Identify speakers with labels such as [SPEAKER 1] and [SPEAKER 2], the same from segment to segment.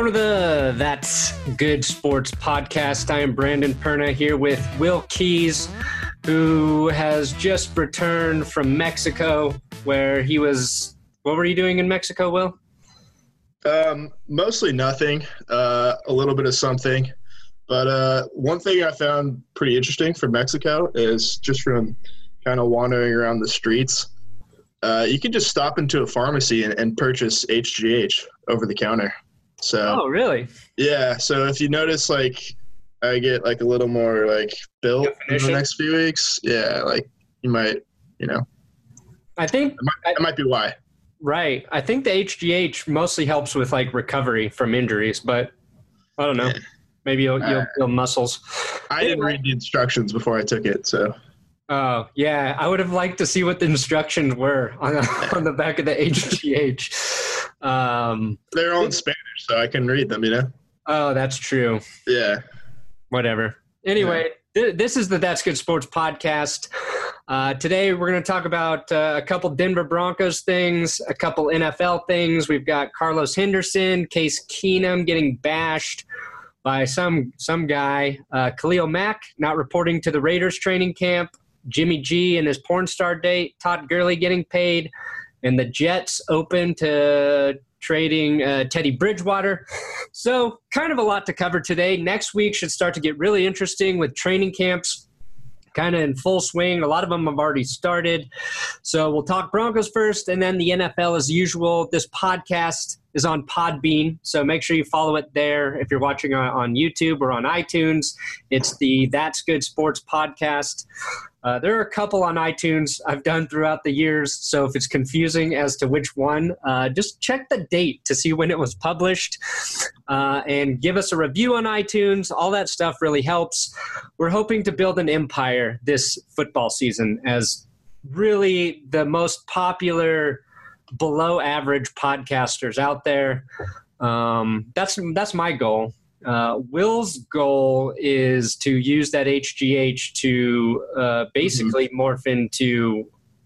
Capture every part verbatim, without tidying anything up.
[SPEAKER 1] Welcome to the That's Good Sports podcast. I am Brandon Perna here with Will Keys, who has just returned from Mexico, where he was. What were you doing in Mexico, Will?
[SPEAKER 2] Um, mostly nothing. Uh, a little bit of something. But uh, one thing I found pretty interesting from Mexico is just from kind of wandering around the streets, uh, you can just stop into a pharmacy and, and purchase H G H over the counter. So,
[SPEAKER 1] oh, really?
[SPEAKER 2] Yeah. So if you notice, like, I get like a little more like built in the next few weeks. Yeah, like you might, you know.
[SPEAKER 1] I think
[SPEAKER 2] that might, that might be why.
[SPEAKER 1] Right. I think the H G H mostly helps with like recovery from injuries, but I don't know. Yeah. Maybe you'll, you'll build muscles.
[SPEAKER 2] I didn't read the instructions before I took it, so.
[SPEAKER 1] Oh, yeah. I would have liked to see what the instructions were on, on the back of the H G H. Um,
[SPEAKER 2] They're all in Spanish, so I can read them, you know?
[SPEAKER 1] Oh, that's true.
[SPEAKER 2] Yeah.
[SPEAKER 1] Whatever. Anyway, yeah. th- this is the That's Good Sports podcast. Uh, today, we're going to talk about uh, a couple Denver Broncos things, a couple N F L things. We've got Carlos Henderson, Case Keenum getting bashed by some some guy, uh, Khalil Mack not reporting to the Raiders training camp, Jimmy G and his porn star date, Todd Gurley getting paid, and the Jets open to trading uh, Teddy Bridgewater. So kind of a lot to cover today. Next week should start to get really interesting with training camps kind of in full swing. A lot of them have already started. So we'll talk Broncos first, and then the N F L as usual. This podcast is on Podbean, so make sure you follow it there. If you're watching on, on YouTube or on iTunes, it's the That's Good Sports podcast. Uh, there are a couple on iTunes I've done throughout the years, so if it's confusing as to which one, uh, just check the date to see when it was published uh, and give us a review on iTunes. All that stuff really helps. We're hoping to build an empire this football season as really the most popular below average podcasters out there. Um, that's that's my goal. Uh, Will's goal is to use that H G H to uh, basically mm-hmm. morph into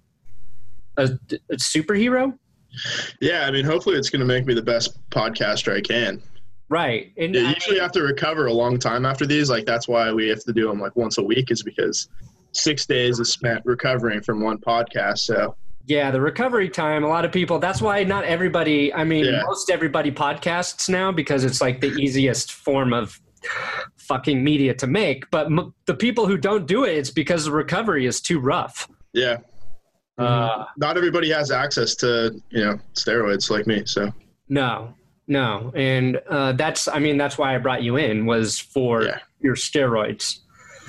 [SPEAKER 1] a, a superhero.
[SPEAKER 2] Yeah, I mean, hopefully it's going to make me the best podcaster I can.
[SPEAKER 1] Right.
[SPEAKER 2] And yeah, you usually have to recover a long time after these. Like, that's why we have to do them like once a week, is because six days is spent recovering from one podcast. So.
[SPEAKER 1] Yeah, the recovery time, a lot of people, that's why not everybody, I mean,
[SPEAKER 2] yeah.
[SPEAKER 1] most everybody podcasts now because it's like the easiest form of fucking media to make. But m- the people who don't do it, it's because the recovery is too rough.
[SPEAKER 2] Yeah. Uh, not everybody has access to, you know, steroids like me, so.
[SPEAKER 1] No, no. And uh, that's, I mean, that's why I brought you in, was for
[SPEAKER 2] yeah.
[SPEAKER 1] your steroids.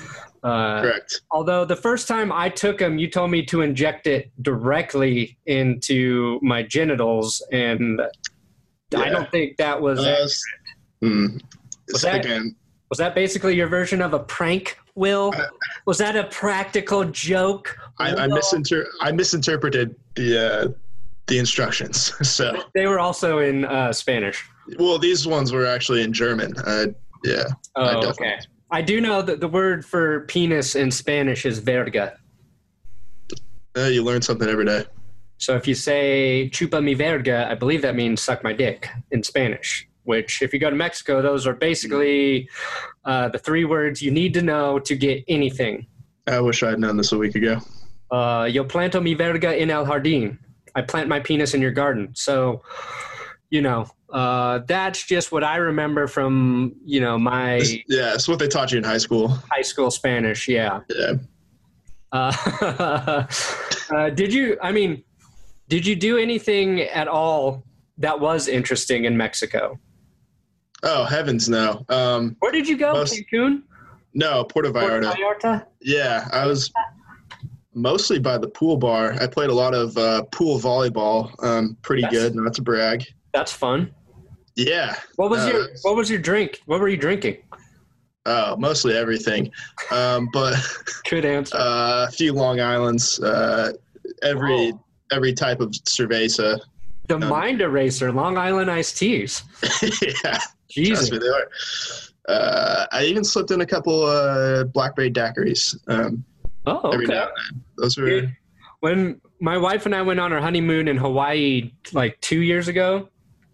[SPEAKER 1] Uh,
[SPEAKER 2] Correct.
[SPEAKER 1] Although the first time I took them, you told me to inject it directly into my genitals, and yeah. I don't think that was.
[SPEAKER 2] Uh, mm,
[SPEAKER 1] was, that
[SPEAKER 2] again,
[SPEAKER 1] was that basically your version of a prank, Will? I, was that a practical joke?
[SPEAKER 2] I, I, misinter- I misinterpreted the uh, the instructions. So
[SPEAKER 1] they were also in uh, Spanish.
[SPEAKER 2] Well, these ones were actually in German. Uh, yeah.
[SPEAKER 1] Oh, I okay. I do know that the word for penis in Spanish is verga.
[SPEAKER 2] Uh, you learn something every day.
[SPEAKER 1] So if you say chupa mi verga, I believe that means suck my dick in Spanish, which if you go to Mexico, those are basically uh, the three words you need to know to get anything.
[SPEAKER 2] I wish I had known this a week ago.
[SPEAKER 1] Uh, yo planto mi verga en el jardín. I plant my penis in your garden. So, you know, uh, that's just what I remember from, you know, my...
[SPEAKER 2] Yeah, it's what they taught you in high school.
[SPEAKER 1] High school Spanish, yeah.
[SPEAKER 2] Yeah.
[SPEAKER 1] Uh, uh, did you, I mean, did you do anything at all that was interesting in Mexico?
[SPEAKER 2] Oh, heavens no. Um,
[SPEAKER 1] Where did you go,
[SPEAKER 2] most,
[SPEAKER 1] Cancun?
[SPEAKER 2] No, Puerto Vallarta.
[SPEAKER 1] Puerto Vallarta?
[SPEAKER 2] Yeah, I was mostly by the pool bar. I played a lot of uh, pool volleyball. Um, pretty
[SPEAKER 1] that's,
[SPEAKER 2] good, not to brag.
[SPEAKER 1] That's fun.
[SPEAKER 2] Yeah.
[SPEAKER 1] What was
[SPEAKER 2] uh,
[SPEAKER 1] your What was your drink? What were you drinking?
[SPEAKER 2] Oh, mostly everything. Um, but
[SPEAKER 1] good answer.
[SPEAKER 2] Uh, a few Long Islands. Uh, every oh. every type of cerveza.
[SPEAKER 1] The
[SPEAKER 2] um,
[SPEAKER 1] mind eraser, Long Island iced teas.
[SPEAKER 2] Yeah.
[SPEAKER 1] Jesus.
[SPEAKER 2] Trust me, they are. Uh, I even slipped in a couple uh, blackberry daiquiris. Um,
[SPEAKER 1] oh, okay.
[SPEAKER 2] Every now and then. Those were.
[SPEAKER 1] When my wife and I went on our honeymoon in Hawaii like two years ago,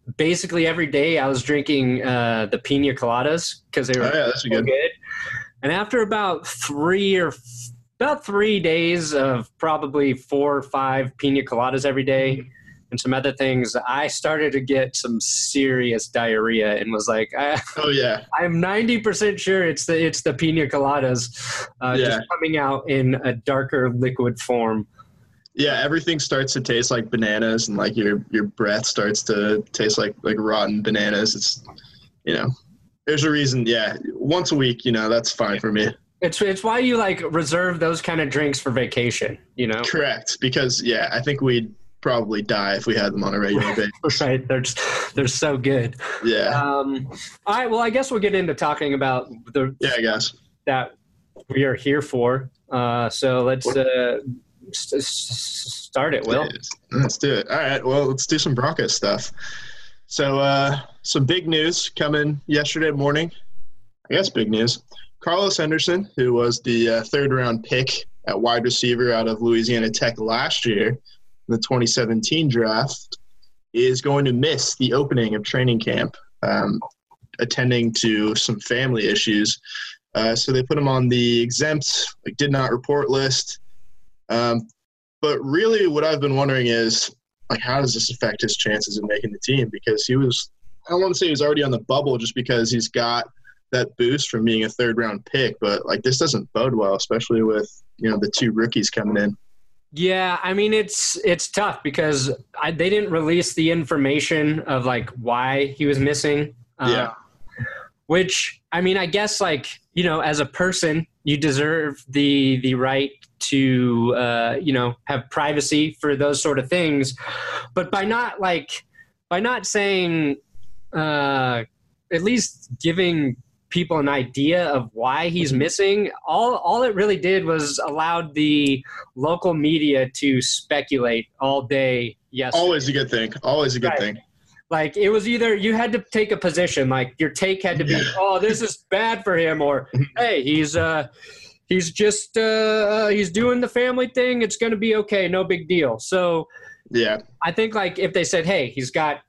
[SPEAKER 1] basically every day I was drinking uh, the pina coladas because they were
[SPEAKER 2] oh, yeah, that's
[SPEAKER 1] so
[SPEAKER 2] good.
[SPEAKER 1] good. And after about three or about three days of probably four or five pina coladas every day and some other things, I started to get some serious diarrhea and was like, I,
[SPEAKER 2] Oh yeah,
[SPEAKER 1] I'm ninety percent sure it's the it's the pina coladas uh,
[SPEAKER 2] Yeah.
[SPEAKER 1] just coming out in a darker liquid form.
[SPEAKER 2] yeah. Everything starts to taste like bananas, and like your your breath starts to taste like like rotten bananas. It's, you know, there's a reason. Yeah, once a week, you know, that's fine for me.
[SPEAKER 1] It's it's why you like reserve those kind of drinks for vacation, you know?
[SPEAKER 2] Correct, because yeah, I think we'd probably die if we had them on a regular basis.
[SPEAKER 1] Right, they're just, they're so good.
[SPEAKER 2] Yeah,
[SPEAKER 1] Um, all right, well, I guess we'll get into talking about the
[SPEAKER 2] yeah, I guess.
[SPEAKER 1] that we are here for. Uh, so let's uh, s- s- start it, Will.
[SPEAKER 2] Let's do it. All right, well, let's do some Broncos stuff. So, uh, some big news coming yesterday morning. I guess big news. Carlos Henderson, who was the uh, third-round pick at wide receiver out of Louisiana Tech last year in the twenty seventeen draft, is going to miss the opening of training camp, um, attending to some family issues. Uh, so they put him on the exempt, like did not report list. Um, but really what I've been wondering is, like, how does this affect his chances of making the team? Because he was, I don't want to say he was already on the bubble just because he's got that boost from being a third round pick, but like this doesn't bode well, especially with, you know, the two rookies coming in.
[SPEAKER 1] Yeah, I mean it's it's tough because I, they didn't release the information of like why he was missing. Uh,
[SPEAKER 2] Yeah.
[SPEAKER 1] Which I mean, I guess like, you know, as a person, you deserve the the right to uh, you know, have privacy for those sort of things, but by not like by not saying uh, at least giving people an idea of why he's missing, all all it really did was allowed the local media to speculate all day yesterday.
[SPEAKER 2] Always a good thing. Always a good
[SPEAKER 1] Right.
[SPEAKER 2] thing.
[SPEAKER 1] Like it was either you had to take a position, like your take had to be, oh, this is bad for him, or hey, he's uh he's just uh he's doing the family thing, it's gonna be okay, no big deal. So
[SPEAKER 2] Yeah.
[SPEAKER 1] I think like if they said, hey, he's got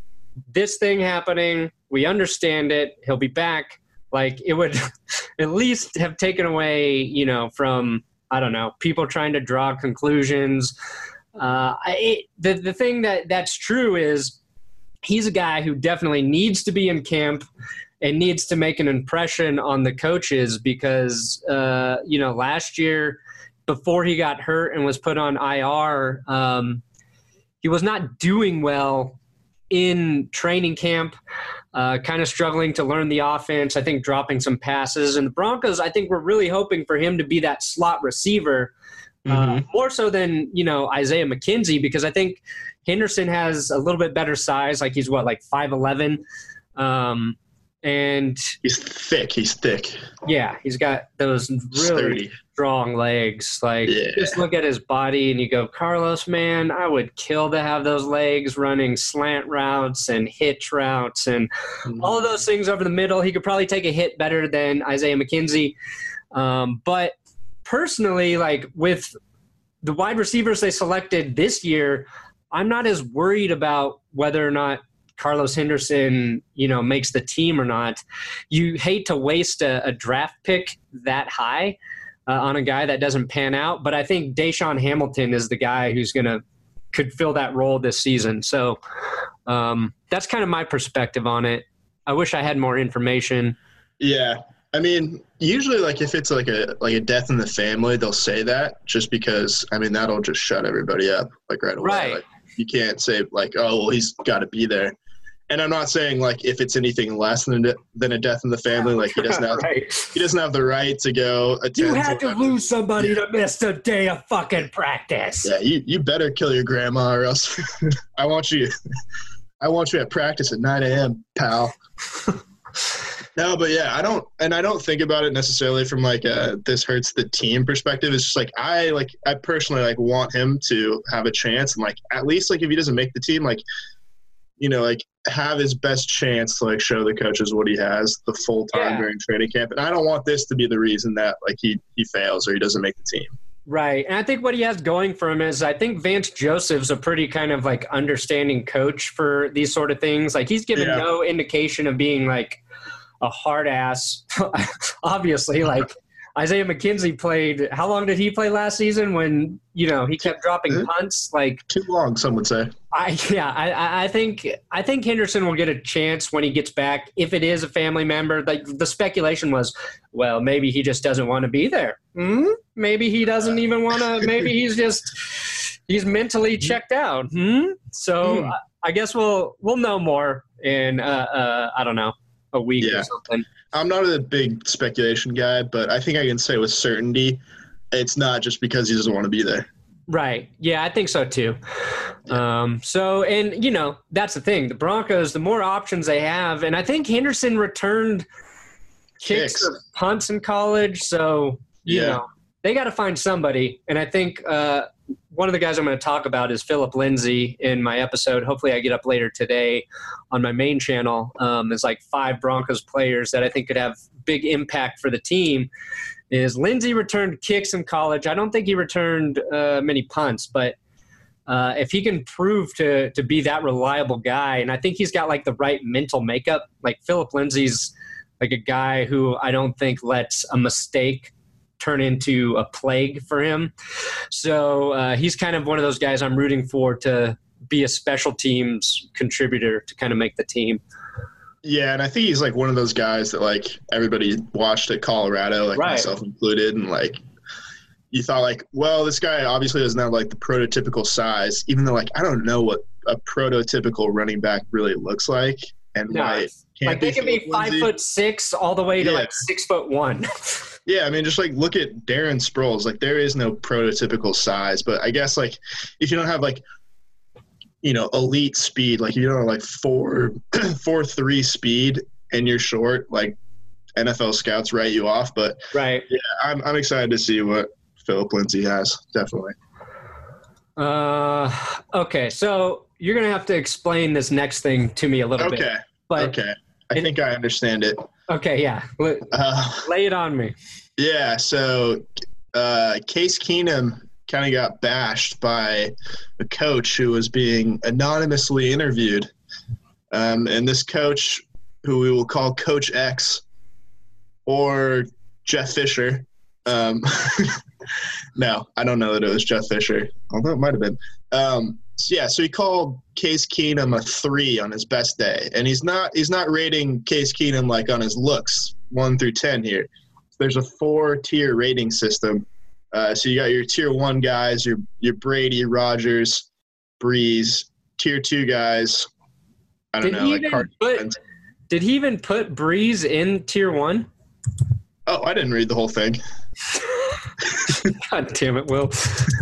[SPEAKER 1] this thing happening, we understand it, he'll be back, like it would at least have taken away, you know, from, I don't know, people trying to draw conclusions. Uh, I, it, the, the thing that that's true is he's a guy who definitely needs to be in camp and needs to make an impression on the coaches because, uh, you know, last year before he got hurt and was put on I R, um, he was not doing well in training camp, uh, kind of struggling to learn the offense, I think dropping some passes. And the Broncos, I think, were really hoping for him to be that slot receiver, uh,
[SPEAKER 2] Mhm.
[SPEAKER 1] more so than, you know, Isaiah McKenzie, because I think Henderson has a little bit better size. Like he's what, like five eleven. Um, and
[SPEAKER 2] He's thick. He's thick.
[SPEAKER 1] yeah, he's got those really
[SPEAKER 2] Sturdy.
[SPEAKER 1] strong legs. Like
[SPEAKER 2] Yeah.
[SPEAKER 1] just look at his body and you go, Carlos, man, I would kill to have those legs running slant routes and hitch routes and all of those things over the middle. He could probably take a hit better than Isaiah McKenzie. Um, but personally, like with the wide receivers they selected this year, I'm not as worried about whether or not Carlos Henderson, you know, makes the team or not. You hate to waste a, a draft pick that high uh, on a guy that doesn't pan out, but I think Deshaun Hamilton is the guy who's going to could fill that role this season. So um, that's kind of my perspective on it. I wish I had more information.
[SPEAKER 2] Yeah. I mean, usually, like, if it's like a like a death in the family, they'll say that just because, I mean, that'll just shut everybody up, like, right away.
[SPEAKER 1] Right.
[SPEAKER 2] Like, you can't say, like, oh, well, he's got to be there. And I'm not saying, like, if it's anything less than a, than a death in the family, like, he doesn't have
[SPEAKER 1] Right.
[SPEAKER 2] he doesn't have the right to go attend.
[SPEAKER 1] You had to
[SPEAKER 2] whatever.
[SPEAKER 1] lose somebody to miss a day of fucking practice.
[SPEAKER 2] Yeah, you, you better kill your grandma or else I want you I want you at practice at nine a.m., pal. No, but yeah, I don't, and I don't think about it necessarily from like a this hurts the team perspective. It's just like I like I personally like want him to have a chance, and like at least like if he doesn't make the team, like you know, like have his best chance to like show the coaches what he has the full time
[SPEAKER 1] Yeah.
[SPEAKER 2] during training camp. And I don't want this to be the reason that like he he fails or he doesn't make the team.
[SPEAKER 1] Right. And I think what he has going for him is I think Vance Joseph's a pretty kind of like understanding coach for these sort of things. Like he's given
[SPEAKER 2] Yeah.
[SPEAKER 1] no indication of being like a hard ass. Obviously, like Isaiah McKenzie played, how long did he play last season when, you know, he kept dropping punts? Like
[SPEAKER 2] Too long, some would say.
[SPEAKER 1] I yeah, I, I think I think Henderson will get a chance when he gets back if it is a family member. Like the speculation was, well, maybe he just doesn't want to be there. Hmm? Maybe he doesn't even want to. Maybe he's just he's mentally checked out. Hmm? So
[SPEAKER 2] Hmm.
[SPEAKER 1] I, I guess we'll we'll know more in uh, uh, I don't know a week
[SPEAKER 2] Yeah.
[SPEAKER 1] or something.
[SPEAKER 2] I'm not a big speculation guy, but I think I can say with certainty it's not just because he doesn't want to be there.
[SPEAKER 1] Right. Yeah, I think so too. Um, so, and, you know, that's the thing. The Broncos, the more options they have, and I think Henderson returned kicks,
[SPEAKER 2] Kicks.
[SPEAKER 1] or punts in college. So, you
[SPEAKER 2] Yeah.
[SPEAKER 1] know, they got to find somebody. And I think uh, one of the guys I'm going to talk about is Philip Lindsay in my episode. Hopefully I get up later today on my main channel. Um, there's like five Broncos players that I think could have big impact for the team. Is Lindsay returned kicks in college. I don't think he returned uh, many punts, but uh, if he can prove to to be that reliable guy, and I think he's got like the right mental makeup. Like Philip Lindsay's like a guy who I don't think lets a mistake turn into a plague for him. So uh, he's kind of one of those guys I'm rooting for to be a special teams contributor to kind of make the team.
[SPEAKER 2] Yeah, and I think he's like one of those guys that like everybody watched at Colorado, like
[SPEAKER 1] Right.
[SPEAKER 2] myself included, and like you thought like, well, this guy obviously doesn't have like the prototypical size, even though like I don't know what a prototypical running back really looks like, and
[SPEAKER 1] No,
[SPEAKER 2] why it can't
[SPEAKER 1] Like they can be
[SPEAKER 2] Philip
[SPEAKER 1] five
[SPEAKER 2] Lindsay.
[SPEAKER 1] foot six all the way to
[SPEAKER 2] Yeah.
[SPEAKER 1] like six foot one.
[SPEAKER 2] Yeah, I mean, just like look at Darren Sproles. Like there is no prototypical size, but I guess like if you don't have like you know elite speed, like you don't have like four four three speed and you're short, like N F L scouts write you off. But
[SPEAKER 1] Right.
[SPEAKER 2] yeah, I'm I'm excited to see what Philip Lindsay has. Definitely.
[SPEAKER 1] Uh, okay, so you're gonna have to explain this next thing to me a little bit.
[SPEAKER 2] Okay.
[SPEAKER 1] But
[SPEAKER 2] Okay. I
[SPEAKER 1] it-
[SPEAKER 2] think I understand it.
[SPEAKER 1] okay, yeah, L-
[SPEAKER 2] Uh,
[SPEAKER 1] lay it on me.
[SPEAKER 2] Yeah, so uh, Case Keenum kind of got bashed by a coach who was being anonymously interviewed. Um, and this coach, who we will call Coach X or Jeff Fisher. Um, no, I don't know that it was Jeff Fisher, although it might have been. Um, so yeah, so he called Case Keenum a three on his best day. And he's not he's not rating Case Keenum like on his looks, one through ten here. There's a four-tier rating system. Uh, so you got your tier one guys, your your Brady, Rodgers, Breeze. Tier two guys, I don't
[SPEAKER 1] Did
[SPEAKER 2] know,
[SPEAKER 1] he
[SPEAKER 2] like
[SPEAKER 1] even
[SPEAKER 2] Carson
[SPEAKER 1] put?
[SPEAKER 2] Wentz.
[SPEAKER 1] Did he even put Breeze in tier one?
[SPEAKER 2] Oh, I didn't read the whole thing.
[SPEAKER 1] God damn it, Will.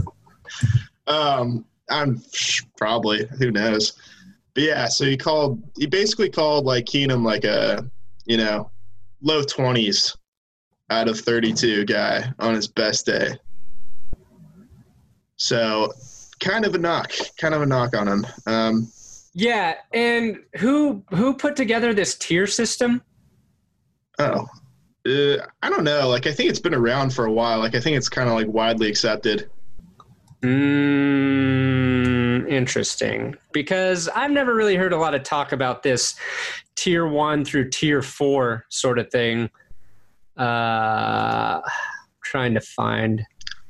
[SPEAKER 2] Um, I'm probably, who knows. But yeah, so he called, he basically called like Keenum like a, you know, low twenties out of thirty-two guy on his best day. So kind of a knock, kind of a knock on him. Um,
[SPEAKER 1] Yeah, and who who put together this tier system?
[SPEAKER 2] oh, uh, I don't know. Like, I think it's been around for a while. Like, I think it's kind of like widely accepted.
[SPEAKER 1] Mm, interesting. Because I've never really heard a lot of talk about this tier one through tier four sort of thing. Uh, trying to find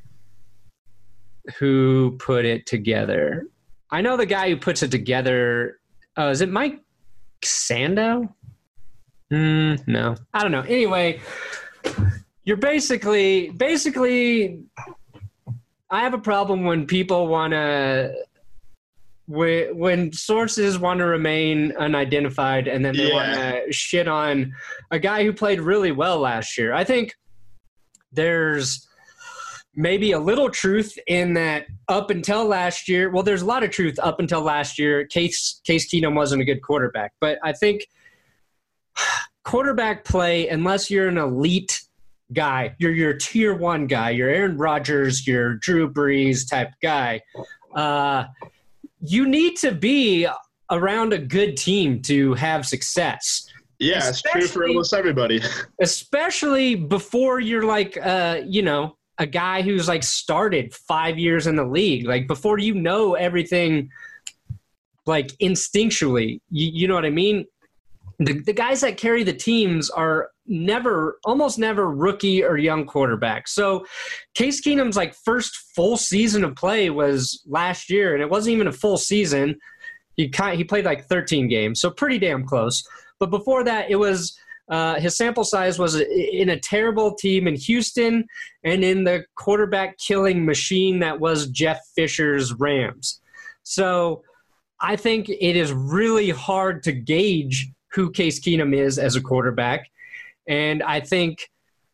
[SPEAKER 1] who put it together. I know the guy who puts it together. Oh, is it Mike Sando? Mm, no, I don't know. Anyway, you're basically basically. I have a problem when people want to, when sources want to remain unidentified and then they
[SPEAKER 2] Yeah.
[SPEAKER 1] want to shit on a guy who played really well last year. I think there's maybe a little truth in that up until last year. Well, there's a lot of truth up until last year. Case Case Keenum wasn't a good quarterback, but I think quarterback play, unless you're an elite guy, you're your tier one guy, you're Aaron Rodgers, you're Drew Brees type guy. Uh, you need to be around a good team to have success.
[SPEAKER 2] Yeah, it's true for
[SPEAKER 1] Especially-
[SPEAKER 2] almost everybody.
[SPEAKER 1] Especially before you're like, uh, you know, a guy who's like started five years in the league. Like before you know everything, like instinctually, you, you know what I mean? The, the guys that carry the teams are never, almost never rookie or young quarterbacks. So Case Keenum's like first full season of play was last year, and it wasn't even a full season. He kind, he played like thirteen games, so pretty damn close. But before that, it was uh, his sample size was in a terrible team in Houston and in the quarterback killing machine that was Jeff Fisher's Rams. So I think it is really hard to gauge who Case Keenum is as a quarterback. And I think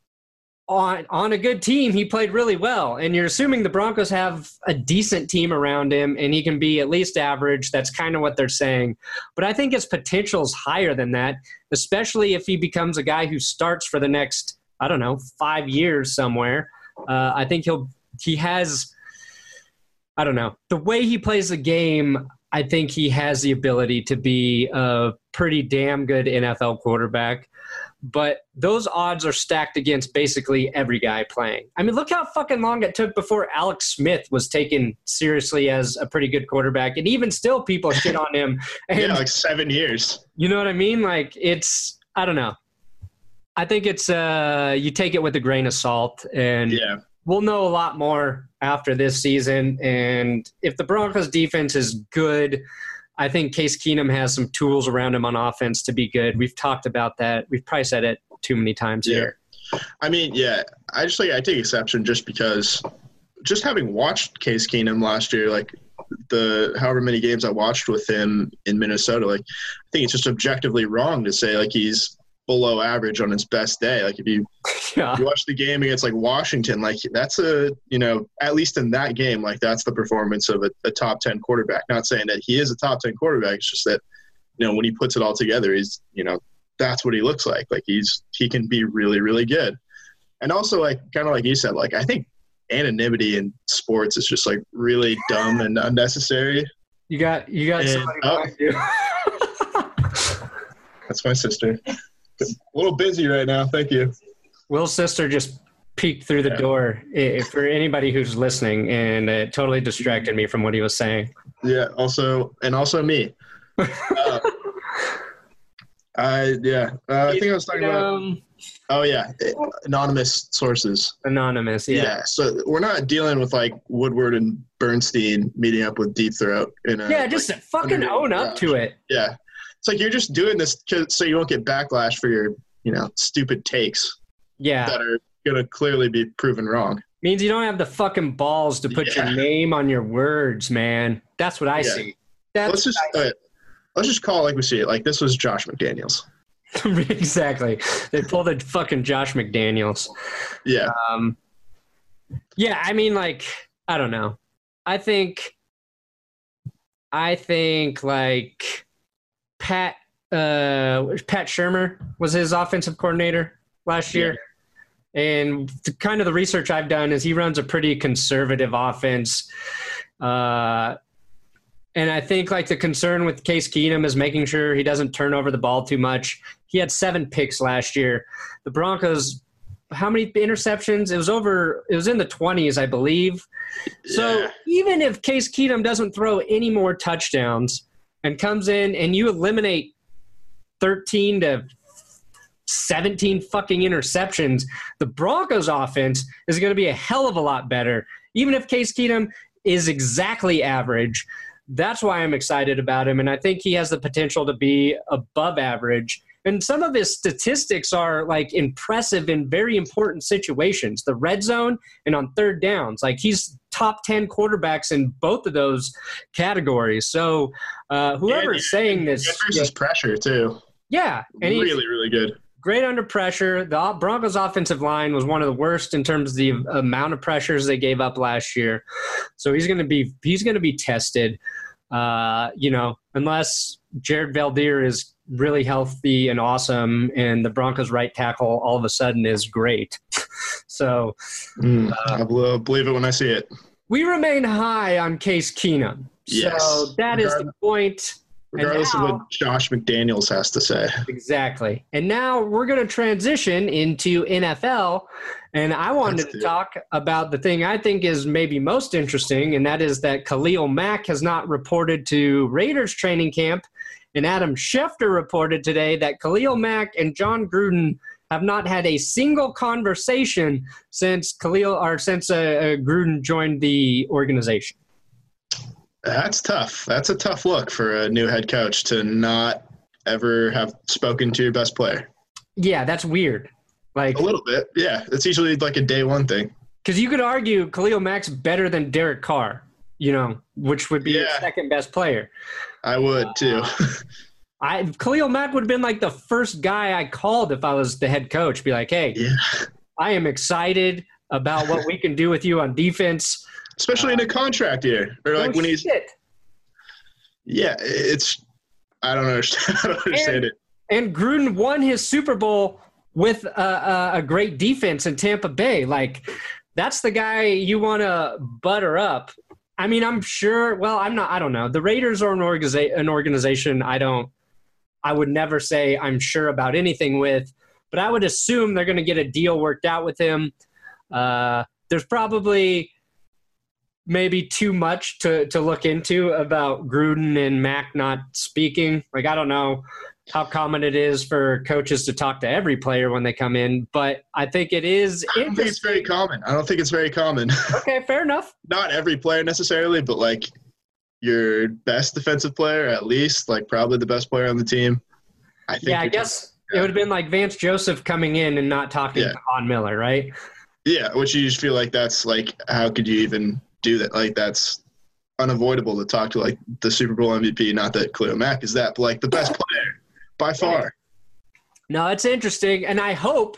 [SPEAKER 1] on on a good team, he played really well. And you're assuming the Broncos have a decent team around him and he can be at least average. That's kind of what they're saying. But I think his potential is higher than that, especially if he becomes a guy who starts for the next, I don't know, five years somewhere. Uh, I think he'll he has, I don't know, the way he plays the game, I think he has the ability to be a pretty damn good N F L quarterback. But those odds are stacked against basically every guy playing. I mean, look how fucking long it took before Alex Smith was taken seriously as a pretty good quarterback. And even still, people shit on him. And,
[SPEAKER 2] yeah, like seven years.
[SPEAKER 1] You know what I mean? Like, it's, I don't know. I think it's, uh, you take it with a grain of salt. And
[SPEAKER 2] yeah.
[SPEAKER 1] We'll know a lot more after this season. And if the Broncos defense is good, I think Case Keenum has some tools around him on offense to be good. We've talked about that. We've probably said it too many times
[SPEAKER 2] yeah.
[SPEAKER 1] here.
[SPEAKER 2] I mean, yeah, I just like I take exception just because just having watched Case Keenum last year, like the however many games I watched with him in Minnesota, like I think it's just objectively wrong to say like he's below average on his best day. Like if you, yeah. you watch the game against like Washington, like that's a, you know, at least in that game, like that's the performance of a, a top ten quarterback. Not saying that he is a top ten quarterback. It's just that, you know, when he puts it all together, he's, you know, that's what he looks like. Like he's, he can be really, really good. And also like, kind of like you said, like, I think anonymity in sports is just like really dumb and unnecessary.
[SPEAKER 1] You got, you got
[SPEAKER 2] and,
[SPEAKER 1] somebody
[SPEAKER 2] oh,
[SPEAKER 1] behind you.
[SPEAKER 2] That's my sister. A little busy right now. Thank you.
[SPEAKER 1] Will's sister just peeked through the yeah. door if, for anybody who's listening, and it totally distracted me from what he was saying.
[SPEAKER 2] Yeah. Also, and also me. uh, I, yeah. Uh, I think I was talking um, about, oh yeah. Anonymous sources.
[SPEAKER 1] Anonymous. Yeah.
[SPEAKER 2] Yeah. So we're not dealing with like Woodward and Bernstein meeting up with Deep Throat. In a,
[SPEAKER 1] yeah. Just like, fucking own up to it.
[SPEAKER 2] Yeah. It's like you're just doing this so you won't get backlash for your, you know, stupid takes.
[SPEAKER 1] Yeah.
[SPEAKER 2] That are going to clearly be proven wrong.
[SPEAKER 1] Means you don't have the fucking balls to put yeah. your name on your words, man. That's what I yeah. see. That's
[SPEAKER 2] let's just uh, let's just call it like we see it. Like this was Josh McDaniels.
[SPEAKER 1] Exactly. They pulled a fucking Josh McDaniels.
[SPEAKER 2] Yeah.
[SPEAKER 1] Um. Yeah, I mean, like, I don't know. I think. I think like. Pat uh, Pat Shurmur was his offensive coordinator last year. Yeah. And the, kind of the research I've done is he runs a pretty conservative offense. Uh, and I think like the concern with Case Keenum is making sure he doesn't turn over the ball too much. He had seven picks last year. The Broncos, how many interceptions? It was over, it was in the twenties, I believe. Yeah. So even if Case Keenum doesn't throw any more touchdowns, and comes in and you eliminate thirteen to seventeen fucking interceptions, the Broncos offense is going to be a hell of a lot better. Even if Case Keenum is exactly average, that's why I'm excited about him. And I think he has the potential to be above average. And some of his statistics are like impressive in very important situations, the red zone and on third downs. Like he's top ten quarterbacks in both of those categories. So uh, whoever's yeah, saying this,
[SPEAKER 2] good versus yeah, pressure too.
[SPEAKER 1] Yeah, and
[SPEAKER 2] really, really good.
[SPEAKER 1] Great under pressure. The Broncos' offensive line was one of the worst in terms of the amount of pressures they gave up last year. So he's going to be he's going to be tested. Uh, you know, unless Jared Valdir is really healthy and awesome, and the Broncos' right tackle all of a sudden is great. so
[SPEAKER 2] mm, uh, I will believe it when I see it.
[SPEAKER 1] We remain high on Case Keenum.
[SPEAKER 2] Yes.
[SPEAKER 1] So that is the point.
[SPEAKER 2] regardless
[SPEAKER 1] now,
[SPEAKER 2] of what Josh McDaniels has to say.
[SPEAKER 1] Exactly. And now we're going to transition into N F L. And I wanted That's to talk about the thing I think is maybe most interesting, and that is that Khalil Mack has not reported to Raiders training camp. And Adam Schefter reported today that Khalil Mack and John Gruden have not had a single conversation since Khalil or since uh, uh, Gruden joined the organization.
[SPEAKER 2] That's tough. That's a tough look for a new head coach to not ever have spoken to your best player.
[SPEAKER 1] Yeah, that's weird. Like
[SPEAKER 2] a little bit, yeah. It's usually like a day one thing.
[SPEAKER 1] Because you could argue Khalil Mack's better than Derek Carr, you know, which would be yeah. your second best player.
[SPEAKER 2] I would too.
[SPEAKER 1] Uh, I Khalil Mack would have been like the first guy I called if I was the head coach. Be like, hey,
[SPEAKER 2] yeah.
[SPEAKER 1] I am excited about what we can do with you on defense.
[SPEAKER 2] Especially uh, in a contract year. Or like
[SPEAKER 1] no
[SPEAKER 2] when he's
[SPEAKER 1] shit.
[SPEAKER 2] Yeah, it's I don't understand, I don't understand
[SPEAKER 1] and,
[SPEAKER 2] it.
[SPEAKER 1] And Gruden won his Super Bowl with a, a, a great defense in Tampa Bay. Like, that's the guy you want to butter up. I mean, I'm sure – well, I'm not – I don't know. The Raiders are an, organiza- an organization I don't – I would never say I'm sure about anything with, but I would assume they're going to get a deal worked out with him. Uh, there's probably maybe too much to, to look into about Gruden and Mack not speaking. Like, I don't know how common it is for coaches to talk to every player when they come in, but I think it is
[SPEAKER 2] I don't think it's very common. I don't think it's very common.
[SPEAKER 1] Okay, fair enough.
[SPEAKER 2] Not every player necessarily, but like your best defensive player, at least, like probably the best player on the team. I think.
[SPEAKER 1] Yeah, I guess talking, it would have been like Vance Joseph coming in and not talking yeah. to Von Miller, right?
[SPEAKER 2] Yeah, which you just feel like that's like, how could you even do that? Like, that's unavoidable to talk to like the Super Bowl M V P. Not that Khalil Mack is that, but like the best player. By far.
[SPEAKER 1] No, it's interesting. And I hope,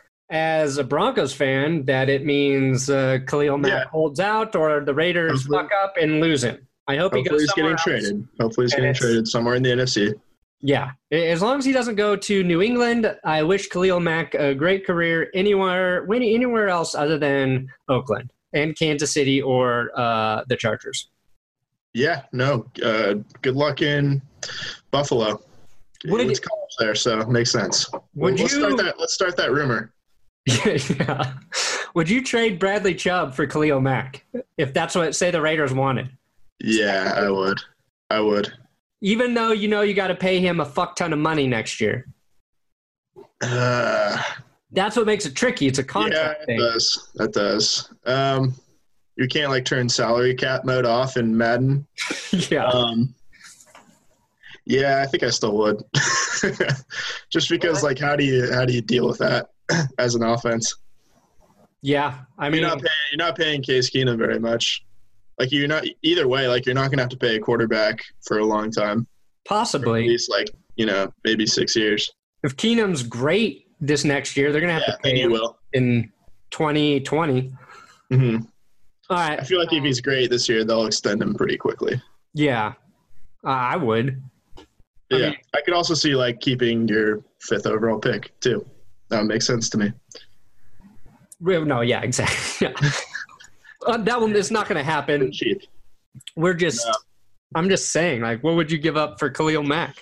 [SPEAKER 1] as a Broncos fan, that it means uh, Khalil Mack yeah. holds out or the Raiders hopefully, fuck up and lose him. I hope he goes
[SPEAKER 2] he's
[SPEAKER 1] somewhere
[SPEAKER 2] getting
[SPEAKER 1] else.
[SPEAKER 2] traded. Hopefully he's and getting traded somewhere in the N F C.
[SPEAKER 1] Yeah. As long as he doesn't go to New England, I wish Khalil Mack a great career anywhere, anywhere else other than Oakland and Kansas City or uh, the Chargers.
[SPEAKER 2] Yeah, no. Uh, good luck in Buffalo.
[SPEAKER 1] Would
[SPEAKER 2] it's college there, so it makes sense.
[SPEAKER 1] Would
[SPEAKER 2] let's
[SPEAKER 1] you,
[SPEAKER 2] start that. Let's start that rumor.
[SPEAKER 1] Yeah. Would you trade Bradley Chubb for Khalil Mack if that's what say the Raiders wanted?
[SPEAKER 2] Yeah, I would. I would.
[SPEAKER 1] Even though you know you got to pay him a fuck ton of money next year.
[SPEAKER 2] Uh,
[SPEAKER 1] that's what makes it tricky. It's a contract
[SPEAKER 2] yeah, it
[SPEAKER 1] thing.
[SPEAKER 2] does. That does. Um, you can't like turn salary cap mode off in Madden.
[SPEAKER 1] Yeah.
[SPEAKER 2] Um, Yeah, I think I still would. Just because, like, how do you how do you deal with that as an offense?
[SPEAKER 1] Yeah, I mean,
[SPEAKER 2] you're not paying, you're not paying Case Keenum very much. Like, you're not either way. Like, you're not going to have to pay a quarterback for a long time.
[SPEAKER 1] Possibly,
[SPEAKER 2] at least like you know maybe six years.
[SPEAKER 1] If Keenum's great this next year, they're going to have
[SPEAKER 2] yeah,
[SPEAKER 1] to pay him
[SPEAKER 2] will.
[SPEAKER 1] in twenty twenty.
[SPEAKER 2] Mm-hmm.
[SPEAKER 1] All right.
[SPEAKER 2] I feel like if he's great this year, they'll extend him pretty quickly.
[SPEAKER 1] Yeah, uh, I would.
[SPEAKER 2] Yeah, I, mean, I could also see like keeping your fifth overall pick too. That would make sense to me.
[SPEAKER 1] No, yeah, exactly. Yeah. uh, that one is not going to happen.
[SPEAKER 2] Cheap.
[SPEAKER 1] We're just. No. I'm just saying, like, what would you give up for Khalil Mack?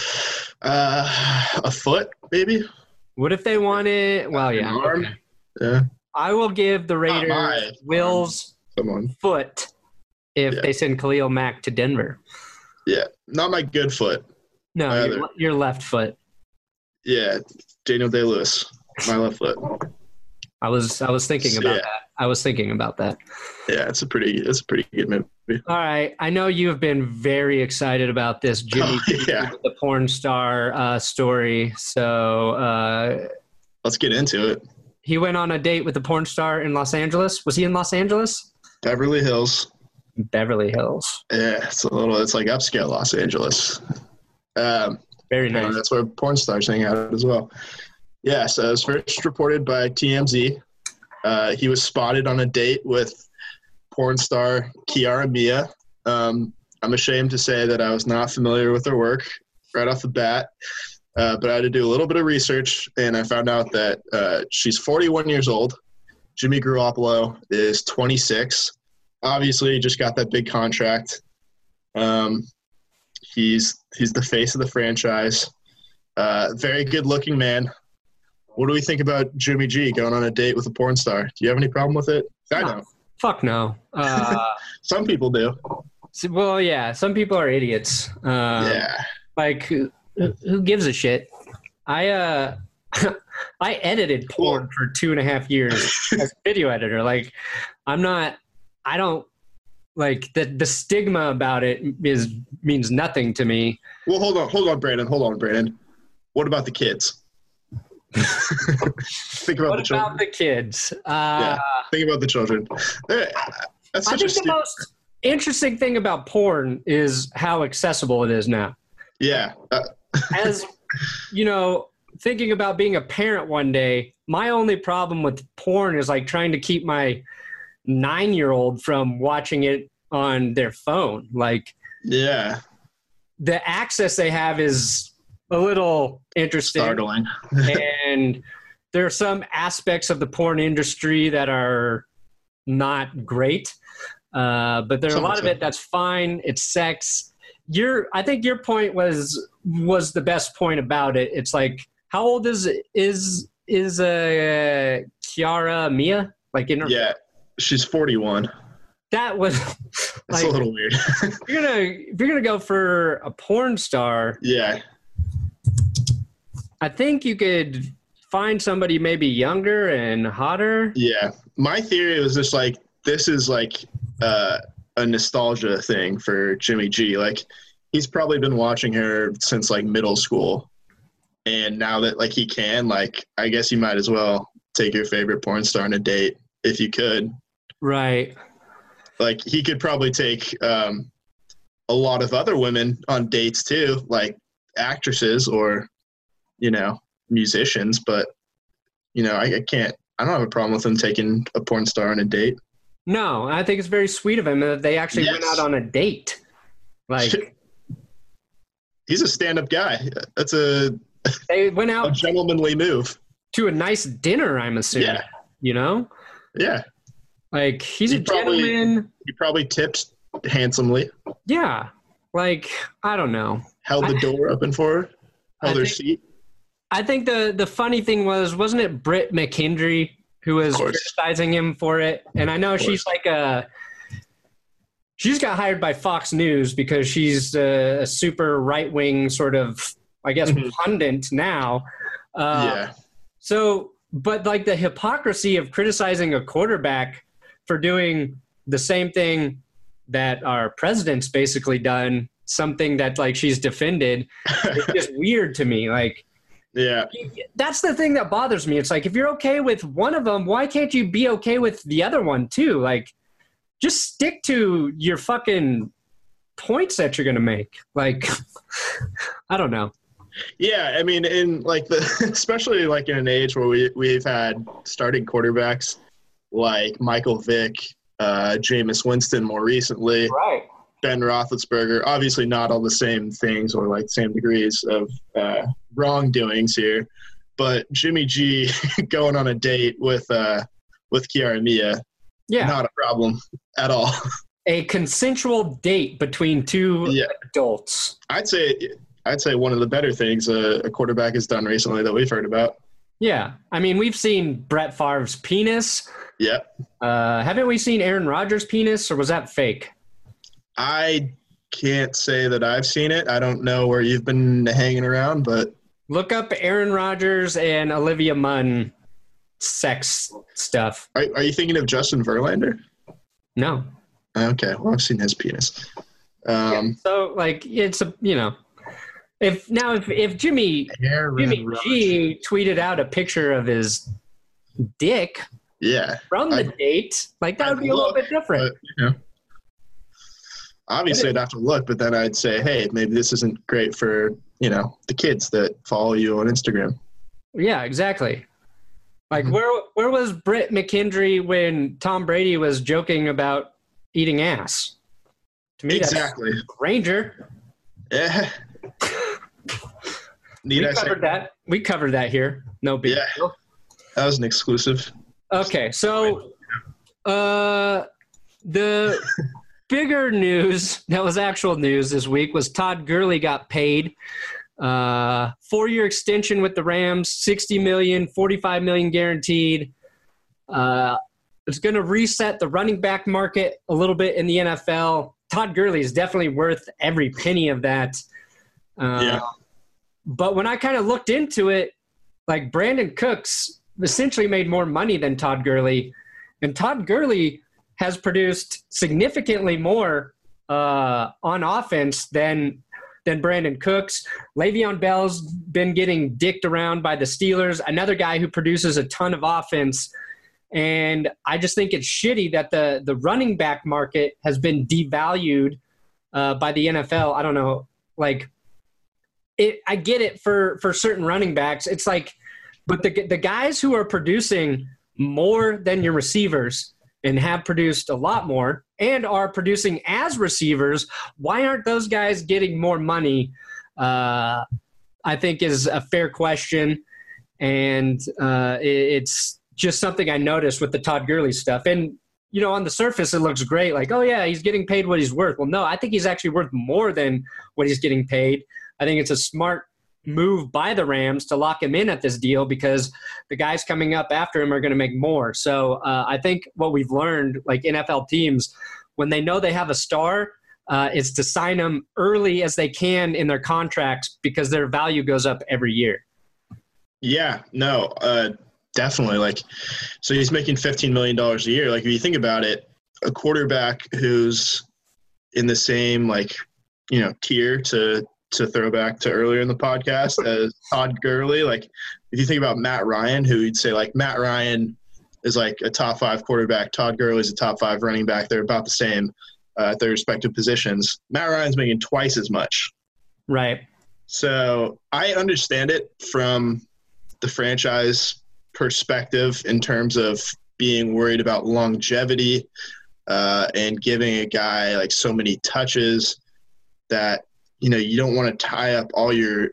[SPEAKER 2] Uh, a foot, maybe.
[SPEAKER 1] What if they wanted? Well, yeah.
[SPEAKER 2] An arm.
[SPEAKER 1] Okay.
[SPEAKER 2] Yeah.
[SPEAKER 1] I will give the Raiders Will's
[SPEAKER 2] Someone.
[SPEAKER 1] foot if
[SPEAKER 2] yeah.
[SPEAKER 1] they send Khalil Mack to Denver.
[SPEAKER 2] Yeah, not my good foot.
[SPEAKER 1] No, your, your left foot.
[SPEAKER 2] Yeah, Daniel Day-Lewis, my left foot.
[SPEAKER 1] I was I was thinking about
[SPEAKER 2] yeah.
[SPEAKER 1] that. I was thinking about that.
[SPEAKER 2] Yeah, it's a pretty it's a pretty good movie.
[SPEAKER 1] All right, I know you have been very excited about this Jimmy
[SPEAKER 2] oh, yeah.
[SPEAKER 1] the porn star uh, story. So uh,
[SPEAKER 2] let's get into it.
[SPEAKER 1] He went on a date with a porn star in Los Angeles. Was he in Los Angeles?
[SPEAKER 2] Beverly Hills.
[SPEAKER 1] Beverly Hills.
[SPEAKER 2] Yeah, it's a little. It's like upscale Los Angeles. Um,
[SPEAKER 1] Very nice.
[SPEAKER 2] That's where porn stars hang out as well. Yeah, so it was first reported by T M Z. Uh, he was spotted on a date with porn star Kiara Mia. Um, I'm ashamed to say that I was not familiar with her work right off the bat, uh, but I had to do a little bit of research, and I found out that uh, she's forty-one years old. Jimmy Garoppolo is twenty-six. Obviously, just got that big contract. Um, He's he's the face of the franchise. Uh, very good-looking man. What do we think about Jimmy G going on a date with a porn star? Do you have any problem with it? I
[SPEAKER 1] No.
[SPEAKER 2] know.
[SPEAKER 1] Fuck no. Uh,
[SPEAKER 2] Some people do.
[SPEAKER 1] so- well, yeah, some people are idiots. Um,
[SPEAKER 2] Yeah.
[SPEAKER 1] Like, who, who gives a shit? I uh, I edited porn for two and a half years as a video editor. Like, I'm not. I don't like the the stigma about it is means nothing to me.
[SPEAKER 2] Well, hold on, hold on, Brandon. Hold on, Brandon. What about the kids? Think about
[SPEAKER 1] What
[SPEAKER 2] the children.
[SPEAKER 1] about the kids? Uh,
[SPEAKER 2] Yeah. Think about the children. They're- That's
[SPEAKER 1] I
[SPEAKER 2] such
[SPEAKER 1] think
[SPEAKER 2] a
[SPEAKER 1] the
[SPEAKER 2] stu-
[SPEAKER 1] most interesting thing about porn is how accessible it is now.
[SPEAKER 2] yeah. Uh,
[SPEAKER 1] As you know, thinking about being a parent one day, my only problem with porn is like trying to keep my nine-year-old from watching it on their phone. Like,
[SPEAKER 2] yeah.
[SPEAKER 1] the access they have is a little interesting.
[SPEAKER 2] Startling.
[SPEAKER 1] And there are some aspects of the porn industry that are not great. Uh, but there's a lot of it that's fine. It's sex. Your, I think your point was was the best point about it. It's like, how old is is is uh, Kiara Mia? Like in her,
[SPEAKER 2] Yeah. She's forty-one.
[SPEAKER 1] that was
[SPEAKER 2] That's
[SPEAKER 1] like,
[SPEAKER 2] a little weird.
[SPEAKER 1] if you're gonna if you're gonna go for a porn star,
[SPEAKER 2] yeah.
[SPEAKER 1] I think you could find somebody maybe younger and hotter.
[SPEAKER 2] Yeah. My theory was just like, this is like uh, a nostalgia thing for Jimmy G. Like, he's probably been watching her since like middle school. And now that like he can, like, I guess you might as well take your favorite porn star on a date if you could.
[SPEAKER 1] Right.
[SPEAKER 2] Like, he could probably take um, a lot of other women on dates too, like actresses or, you know, musicians. But, you know, I, I can't, I don't have a problem with him taking a porn star on a date.
[SPEAKER 1] No, I think it's very sweet of him that they actually
[SPEAKER 2] Yes.
[SPEAKER 1] went out on a date. Like,
[SPEAKER 2] He's a stand-up guy. That's a,
[SPEAKER 1] they went
[SPEAKER 2] a
[SPEAKER 1] out
[SPEAKER 2] gentlemanly move.
[SPEAKER 1] to a nice dinner, I'm assuming.
[SPEAKER 2] Yeah.
[SPEAKER 1] You know?
[SPEAKER 2] Yeah.
[SPEAKER 1] Like, he's
[SPEAKER 2] He
[SPEAKER 1] a
[SPEAKER 2] probably-
[SPEAKER 1] gentleman.
[SPEAKER 2] He probably tipped handsomely,
[SPEAKER 1] Yeah. Like, I don't know.
[SPEAKER 2] held the
[SPEAKER 1] I-
[SPEAKER 2] door open for her, held
[SPEAKER 1] I
[SPEAKER 2] her
[SPEAKER 1] think-
[SPEAKER 2] seat.
[SPEAKER 1] I think the the funny thing was, wasn't it Britt McKendry who was
[SPEAKER 2] Of course.
[SPEAKER 1] criticizing him for it? And I know
[SPEAKER 2] Of
[SPEAKER 1] she's like a she's got hired by Fox News because she's a, a super right wing sort of, I guess,
[SPEAKER 2] Mhm.
[SPEAKER 1] pundit now. Uh,
[SPEAKER 2] yeah.
[SPEAKER 1] So, but like the hypocrisy of criticizing a quarterback for doing the same thing that our president's basically done, something that like she's defended, it's just weird to me. Like,
[SPEAKER 2] Yeah.
[SPEAKER 1] that's the thing that bothers me. It's like, if you're okay with one of them, why can't you be okay with the other one too? Like, just stick to your fucking points that you're going to make. Like, I don't know.
[SPEAKER 2] Yeah, I mean, in like the, especially like in an age where we we've had starting quarterbacks like Michael Vick, uh, Jameis Winston more recently,
[SPEAKER 1] Right.
[SPEAKER 2] Ben Roethlisberger. Obviously, not all the same things or like same degrees of uh, wrongdoings here, but Jimmy G going on a date with uh, with Kiara Mia,
[SPEAKER 1] Yeah.
[SPEAKER 2] not a problem at all.
[SPEAKER 1] A consensual date between two
[SPEAKER 2] Yeah.
[SPEAKER 1] adults.
[SPEAKER 2] I'd say I'd say one of the better things a, a quarterback has done recently that we've heard about.
[SPEAKER 1] Yeah. I mean, we've seen Brett Favre's penis.
[SPEAKER 2] Yeah.
[SPEAKER 1] Uh, haven't we seen Aaron Rodgers' penis, or was that fake?
[SPEAKER 2] I can't say that I've seen it. I don't know where you've been hanging around, but
[SPEAKER 1] Look up Aaron Rodgers and Olivia Munn sex stuff.
[SPEAKER 2] are, are you thinking of Justin Verlander?
[SPEAKER 1] No.
[SPEAKER 2] Okay, well, I've seen his penis. Um,
[SPEAKER 1] So, like, it's a, you know, if now if, if Jimmy Jimmy G tweeted out a picture of his dick
[SPEAKER 2] yeah,
[SPEAKER 1] from the
[SPEAKER 2] I-
[SPEAKER 1] date, like, that would
[SPEAKER 2] I'd
[SPEAKER 1] be a little
[SPEAKER 2] look,
[SPEAKER 1] bit different.
[SPEAKER 2] but, you know, obviously I'd have to look, but then I'd say, hey, maybe this isn't great for, you know, the kids that follow you on Instagram.
[SPEAKER 1] Yeah, exactly. Like,
[SPEAKER 2] Mhm.
[SPEAKER 1] where where was Britt McKendry when Tom Brady was joking about eating ass? To me,
[SPEAKER 2] Exactly.
[SPEAKER 1] that's Ranger.
[SPEAKER 2] Yeah. Need
[SPEAKER 1] we
[SPEAKER 2] I say
[SPEAKER 1] covered that. We covered that here. No big
[SPEAKER 2] Yeah.
[SPEAKER 1] deal.
[SPEAKER 2] that was an exclusive?
[SPEAKER 1] Okay, so uh, the bigger news that was actual news this week was Todd Gurley got paid. Uh, four-year extension with the Rams, sixty million dollars, forty-five million dollars guaranteed. Uh, it's going to reset the running back market a little bit in the N F L. Todd Gurley is definitely worth every penny of that. Uh,
[SPEAKER 2] yeah.
[SPEAKER 1] But when I kind of looked into it, like Brandon Cooks essentially made more money than Todd Gurley. And Todd Gurley has produced significantly more uh, on offense than than Brandon Cooks. Le'Veon Bell's been getting dicked around by the Steelers, another guy who produces a ton of offense. And I just think it's shitty that the, the running back market has been devalued uh, by the N F L. I don't know. Like, it, I get it for, for certain running backs. It's like, but the the guys who are producing more than your receivers and have produced a lot more and are producing as receivers, why aren't those guys getting more money? Uh, I think is a fair question. And uh, it, it's just something I noticed with the Todd Gurley stuff. And, you know, on the surface, it looks great. Like, oh, yeah, he's getting paid what he's worth. Well, no, I think he's actually worth more than what he's getting paid. I think it's a smart move by the Rams to lock him in at this deal because the guys coming up after him are going to make more. So uh, I think what we've learned, like N F L teams, when they know they have a star, uh, is to sign them early as they can in their contracts because their value goes up every year.
[SPEAKER 2] Yeah, no, uh, definitely. Like, so he's making fifteen million dollars a year. Like, if you think about it, a quarterback who's in the same, like, you know, tier to to throw back to earlier in the podcast as Todd Gurley. Like, if you think about Matt Ryan, who you'd say, like, Matt Ryan is like a top five quarterback. Todd Gurley is a top five running back. They're about the same uh, at their respective positions. Matt Ryan's making twice as much.
[SPEAKER 1] Right.
[SPEAKER 2] So I understand it from the franchise perspective in terms of being worried about longevity uh, and giving a guy like so many touches that, you know, you don't want to tie up all your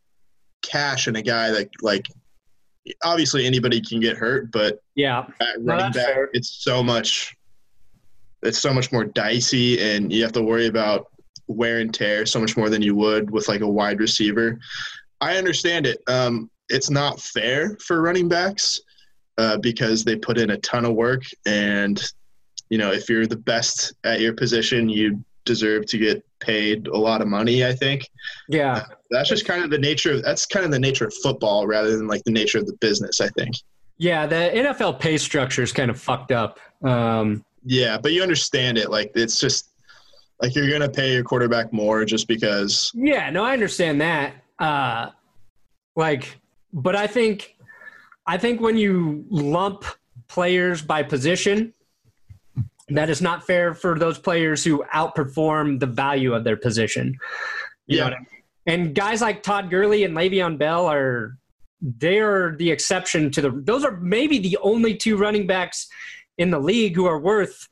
[SPEAKER 2] cash in a guy that, like, obviously anybody can get hurt, but
[SPEAKER 1] yeah,
[SPEAKER 2] at running
[SPEAKER 1] no,
[SPEAKER 2] back,
[SPEAKER 1] fair.
[SPEAKER 2] it's so much, it's so much more dicey, and you have to worry about wear and tear so much more than you would with like a wide receiver. I understand it. Um, it's not fair for running backs uh, because they put in a ton of work, and, you know, if you're the best at your position, you deserve to get paid a lot of money, I think.
[SPEAKER 1] Yeah.
[SPEAKER 2] Uh, that's just kind of the nature of, that's kind of the nature of football rather than like the nature of the business, I think.
[SPEAKER 1] Yeah. The N F L pay structure is kind of fucked up. Um,
[SPEAKER 2] yeah, but you understand it. Like, it's just like, you're going to pay your quarterback more just because.
[SPEAKER 1] Yeah, no, I understand that. Uh, like, but I think, I think when you lump players by position, that is not fair for those players who outperform the value of their position. You
[SPEAKER 2] yeah.
[SPEAKER 1] know what I mean? And guys like Todd Gurley and Le'Veon Bell are they're the exception to the – those are maybe the only two running backs in the league who are worth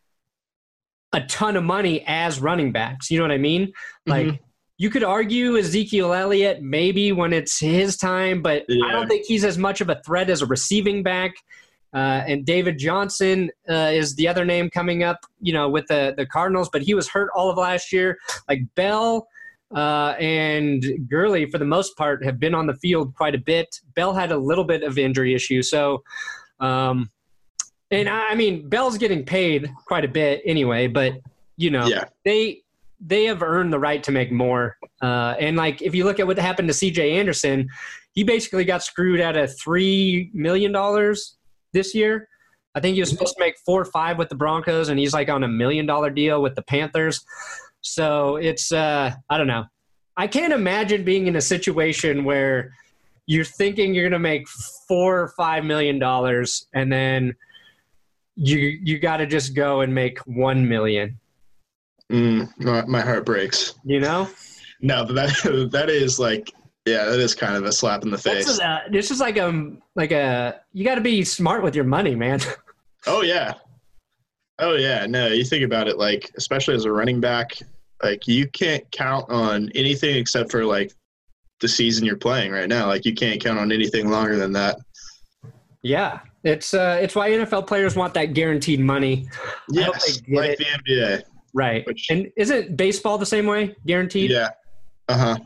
[SPEAKER 1] a ton of money as running backs. You know what I mean? Like, mm-hmm. You could argue Ezekiel Elliott maybe when it's his time, but yeah. I don't think he's as much of a threat as a receiving back. Uh, and David Johnson uh, is the other name coming up, you know, with the, the Cardinals, but he was hurt all of last year. Like Bell uh, and Gurley, for the most part, have been on the field quite a bit. Bell had a little bit of injury issue. So, um, and I mean, Bell's getting paid quite a bit anyway, but, you know,
[SPEAKER 2] yeah.
[SPEAKER 1] they they have earned the right to make more. Uh, and, like, if you look at what happened to C J Anderson, he basically got screwed out of three million dollars this year. I think he was supposed to make four or five with the Broncos, and he's like on a million dollar deal with the Panthers. So it's, uh, I don't know. I can't imagine being in a situation where you're thinking you're going to make four or five million dollars, and then you you got to just go and make one million.
[SPEAKER 2] Mm, my, my heart breaks.
[SPEAKER 1] You know?
[SPEAKER 2] No, but that that is like. Yeah, that is kind of a slap in the face.
[SPEAKER 1] This is, a, this is like a like a you got to be smart with your money, man.
[SPEAKER 2] Oh yeah, oh yeah. No, you think about it, like especially as a running back, like you can't count on anything except for like the season you're playing right now. Like you can't count on anything longer than that.
[SPEAKER 1] Yeah, it's uh, it's why N F L players want that guaranteed money.
[SPEAKER 2] Yes, like it. the N B A.
[SPEAKER 1] Right.
[SPEAKER 2] Which,
[SPEAKER 1] and isn't baseball the same way? Guaranteed?
[SPEAKER 2] Yeah. Uh-huh.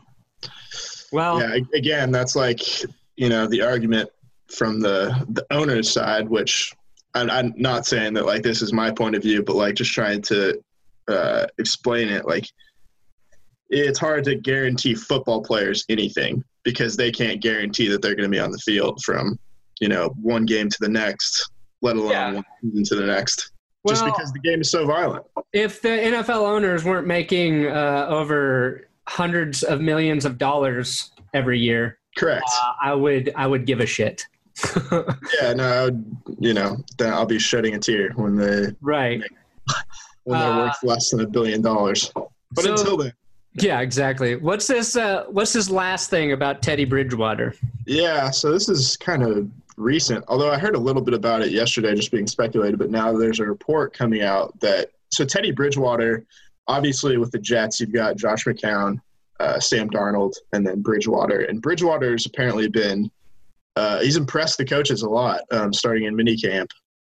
[SPEAKER 1] Well,
[SPEAKER 2] yeah, again, that's like, you know, the argument from the, the owner's side, which I'm, I'm not saying that, like, this is my point of view, but, like, just trying to uh, explain it. Like, it's hard to guarantee football players anything because they can't guarantee that they're going to be on the field from, you know, one game to the next, let alone
[SPEAKER 1] Yeah.
[SPEAKER 2] one season to the next.
[SPEAKER 1] well,
[SPEAKER 2] Just because the game is so violent.
[SPEAKER 1] if the N F L owners weren't making uh, over hundreds of millions of dollars every year,
[SPEAKER 2] Correct.
[SPEAKER 1] uh, I would I would give a shit.
[SPEAKER 2] Yeah, no, I would, you know, then I'll be shedding a tear when they
[SPEAKER 1] Right.
[SPEAKER 2] when they're
[SPEAKER 1] Uh,
[SPEAKER 2] worth less than a billion dollars. But
[SPEAKER 1] so-
[SPEAKER 2] until then,
[SPEAKER 1] Yeah, exactly. What's this? Uh, what's this last thing about Teddy Bridgewater?
[SPEAKER 2] yeah. So this is kind of recent, although I heard a little bit about it yesterday, just being speculated. But now there's a report coming out that so Teddy Bridgewater, obviously with the Jets, you've got Josh McCown, uh, Sam Darnold, and then Bridgewater. And Bridgewater's apparently been uh, he's impressed the coaches a lot, um, starting in minicamp.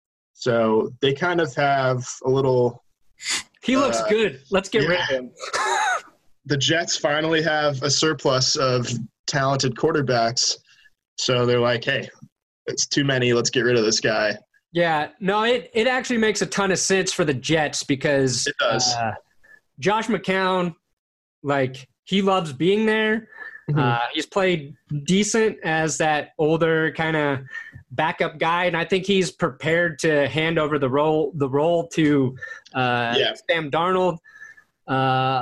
[SPEAKER 2] So they kind of have a little.
[SPEAKER 1] He looks
[SPEAKER 2] Uh,
[SPEAKER 1] good. Let's get
[SPEAKER 2] yeah.
[SPEAKER 1] rid of him.
[SPEAKER 2] The Jets finally have a surplus of talented quarterbacks. So they're like, hey, it's too many. Let's get rid of this guy.
[SPEAKER 1] Yeah, no, it, it actually makes a ton of sense for the Jets because
[SPEAKER 2] It does.
[SPEAKER 1] Uh, Josh McCown, like, he loves being there.
[SPEAKER 2] Mhm.
[SPEAKER 1] Uh, he's played decent as that older kind of backup guy, and I think he's prepared to hand over the role the role to uh,
[SPEAKER 2] Yeah.
[SPEAKER 1] Sam Darnold. Uh,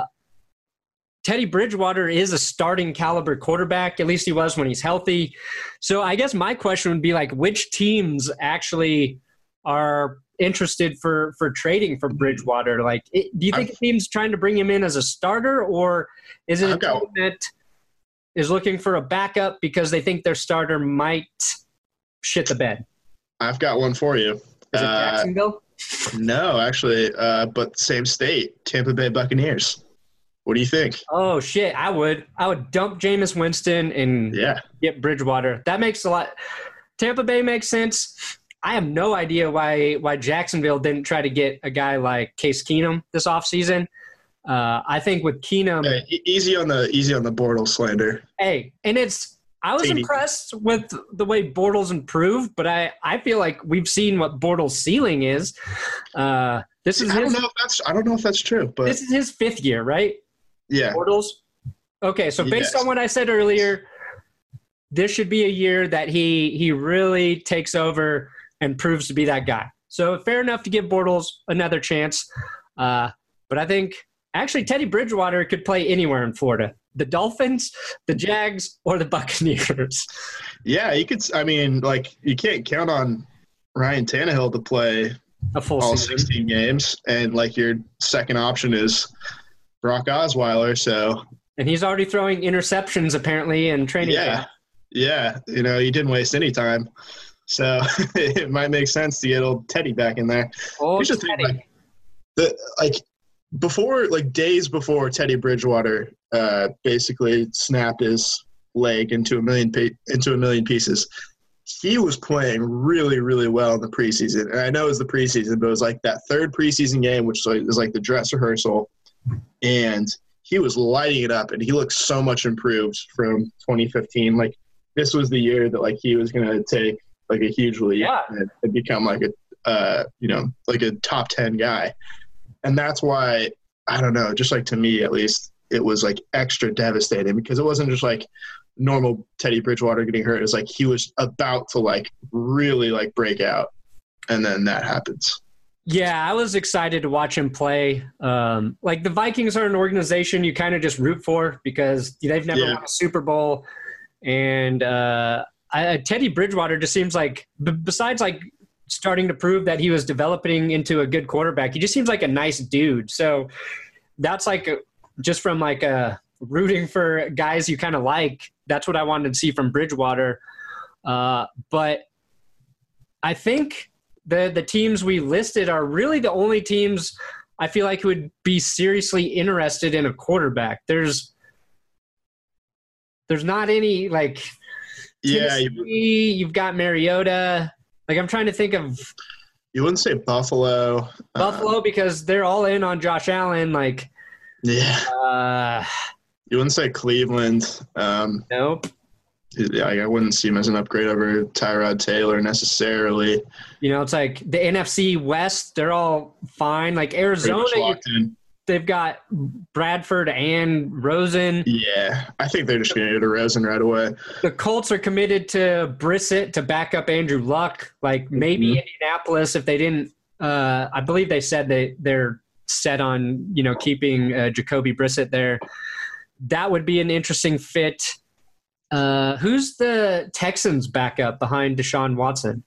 [SPEAKER 1] Teddy Bridgewater is a starting caliber quarterback. At least he was when he's healthy. So I guess my question would be, like, which teams actually are interested for, for trading for Bridgewater? Like, it, do you think
[SPEAKER 2] I've-
[SPEAKER 1] a team's trying to bring him in as a starter, or is it a
[SPEAKER 2] I've got-
[SPEAKER 1] team that is looking for a backup because they think their starter might shit the bed?
[SPEAKER 2] I've got one for you.
[SPEAKER 1] Is it
[SPEAKER 2] Uh,
[SPEAKER 1] Jacksonville?
[SPEAKER 2] no, actually, uh, but same state, Tampa Bay Buccaneers. What do you think?
[SPEAKER 1] Oh, shit. I would. I would dump Jameis Winston and
[SPEAKER 2] Yeah.
[SPEAKER 1] get Bridgewater. That makes a lot. Tampa Bay makes sense. I have no idea why why Jacksonville didn't try to get a guy like Case Keenum this offseason. Uh, I think with Keenum,
[SPEAKER 2] Hey, e- easy on the easy on the Bortles slander.
[SPEAKER 1] hey, and it's I was
[SPEAKER 2] T D.
[SPEAKER 1] impressed with the way Bortles improved, but I, I feel like we've seen what Bortles' ceiling is. Uh, this is
[SPEAKER 2] I don't
[SPEAKER 1] his,
[SPEAKER 2] know if that's I don't know if that's true, but
[SPEAKER 1] this is his fifth year, right?
[SPEAKER 2] yeah,
[SPEAKER 1] Bortles. Okay, so based
[SPEAKER 2] Yes.
[SPEAKER 1] on what I said earlier, this should be a year that he he really takes over and proves to be that guy. So fair enough to give Bortles another chance. Uh, but I think actually Teddy Bridgewater could play anywhere in Florida. The Dolphins, the Jags, or the Buccaneers.
[SPEAKER 2] yeah. You could. I mean, like you can't count on Ryan Tannehill to play
[SPEAKER 1] A full
[SPEAKER 2] all
[SPEAKER 1] season.
[SPEAKER 2] sixteen games, and like your second option is Brock Osweiler. So
[SPEAKER 1] And he's already throwing interceptions apparently in training
[SPEAKER 2] yeah,
[SPEAKER 1] camp.
[SPEAKER 2] yeah. You know, he didn't waste any time. So it might make sense to get old Teddy back in there.
[SPEAKER 1] Oh,
[SPEAKER 2] Here's the thing,
[SPEAKER 1] Teddy.
[SPEAKER 2] like, the like before, like days before Teddy Bridgewater uh, basically snapped his leg into a million pe- into a million pieces, he was playing really, really well in the preseason. And I know it was the preseason, but it was like that third preseason game, which was like, was like the dress rehearsal, and he was lighting it up. And he looked so much improved from twenty fifteen. Like this was the year that like he was going to take like a huge leap
[SPEAKER 1] Yeah.
[SPEAKER 2] and, and become like a uh, you know like a top ten guy. And that's why, I don't know, just like to me at least, it was like extra devastating because it wasn't just like normal Teddy Bridgewater getting hurt. It was like he was about to like really like break out. And then that happens.
[SPEAKER 1] Yeah, I was excited to watch him play. Um, like the Vikings are an organization you kind of just root for because they've never
[SPEAKER 2] Yeah.
[SPEAKER 1] won a Super Bowl. And uh, I, Teddy Bridgewater just seems like, b- besides like starting to prove that he was developing into a good quarterback, he just seems like a nice dude. So that's like a, just from like a rooting for guys you kind of like. That's what I wanted to see from Bridgewater. Uh, but I think the the teams we listed are really the only teams I feel like would be seriously interested in a quarterback. There's there's not any like
[SPEAKER 2] Yeah.
[SPEAKER 1] Tennessee,
[SPEAKER 2] You,
[SPEAKER 1] you've got Mariota. Like I'm trying to think of
[SPEAKER 2] You wouldn't say Buffalo.
[SPEAKER 1] Buffalo,
[SPEAKER 2] uh,
[SPEAKER 1] because they're all in on Josh Allen. Like,
[SPEAKER 2] yeah.
[SPEAKER 1] uh,
[SPEAKER 2] You wouldn't say Cleveland. Um,
[SPEAKER 1] nope.
[SPEAKER 2] Yeah, I wouldn't see him as an upgrade over Tyrod Taylor necessarily.
[SPEAKER 1] You know, it's like the N F C West, they're all fine. Like Arizona, you, they've got Bradford and Rosen.
[SPEAKER 2] Yeah, I think they're just going to get a Rosen right away.
[SPEAKER 1] The Colts are committed to Brissett to back up Andrew Luck. Like maybe mm-hmm. Indianapolis, if they didn't, uh, I believe they said they, they're set on, you know, keeping uh, Jacoby Brissett there. That would be an interesting fit. Uh, who's the Texans backup behind Deshaun Watson?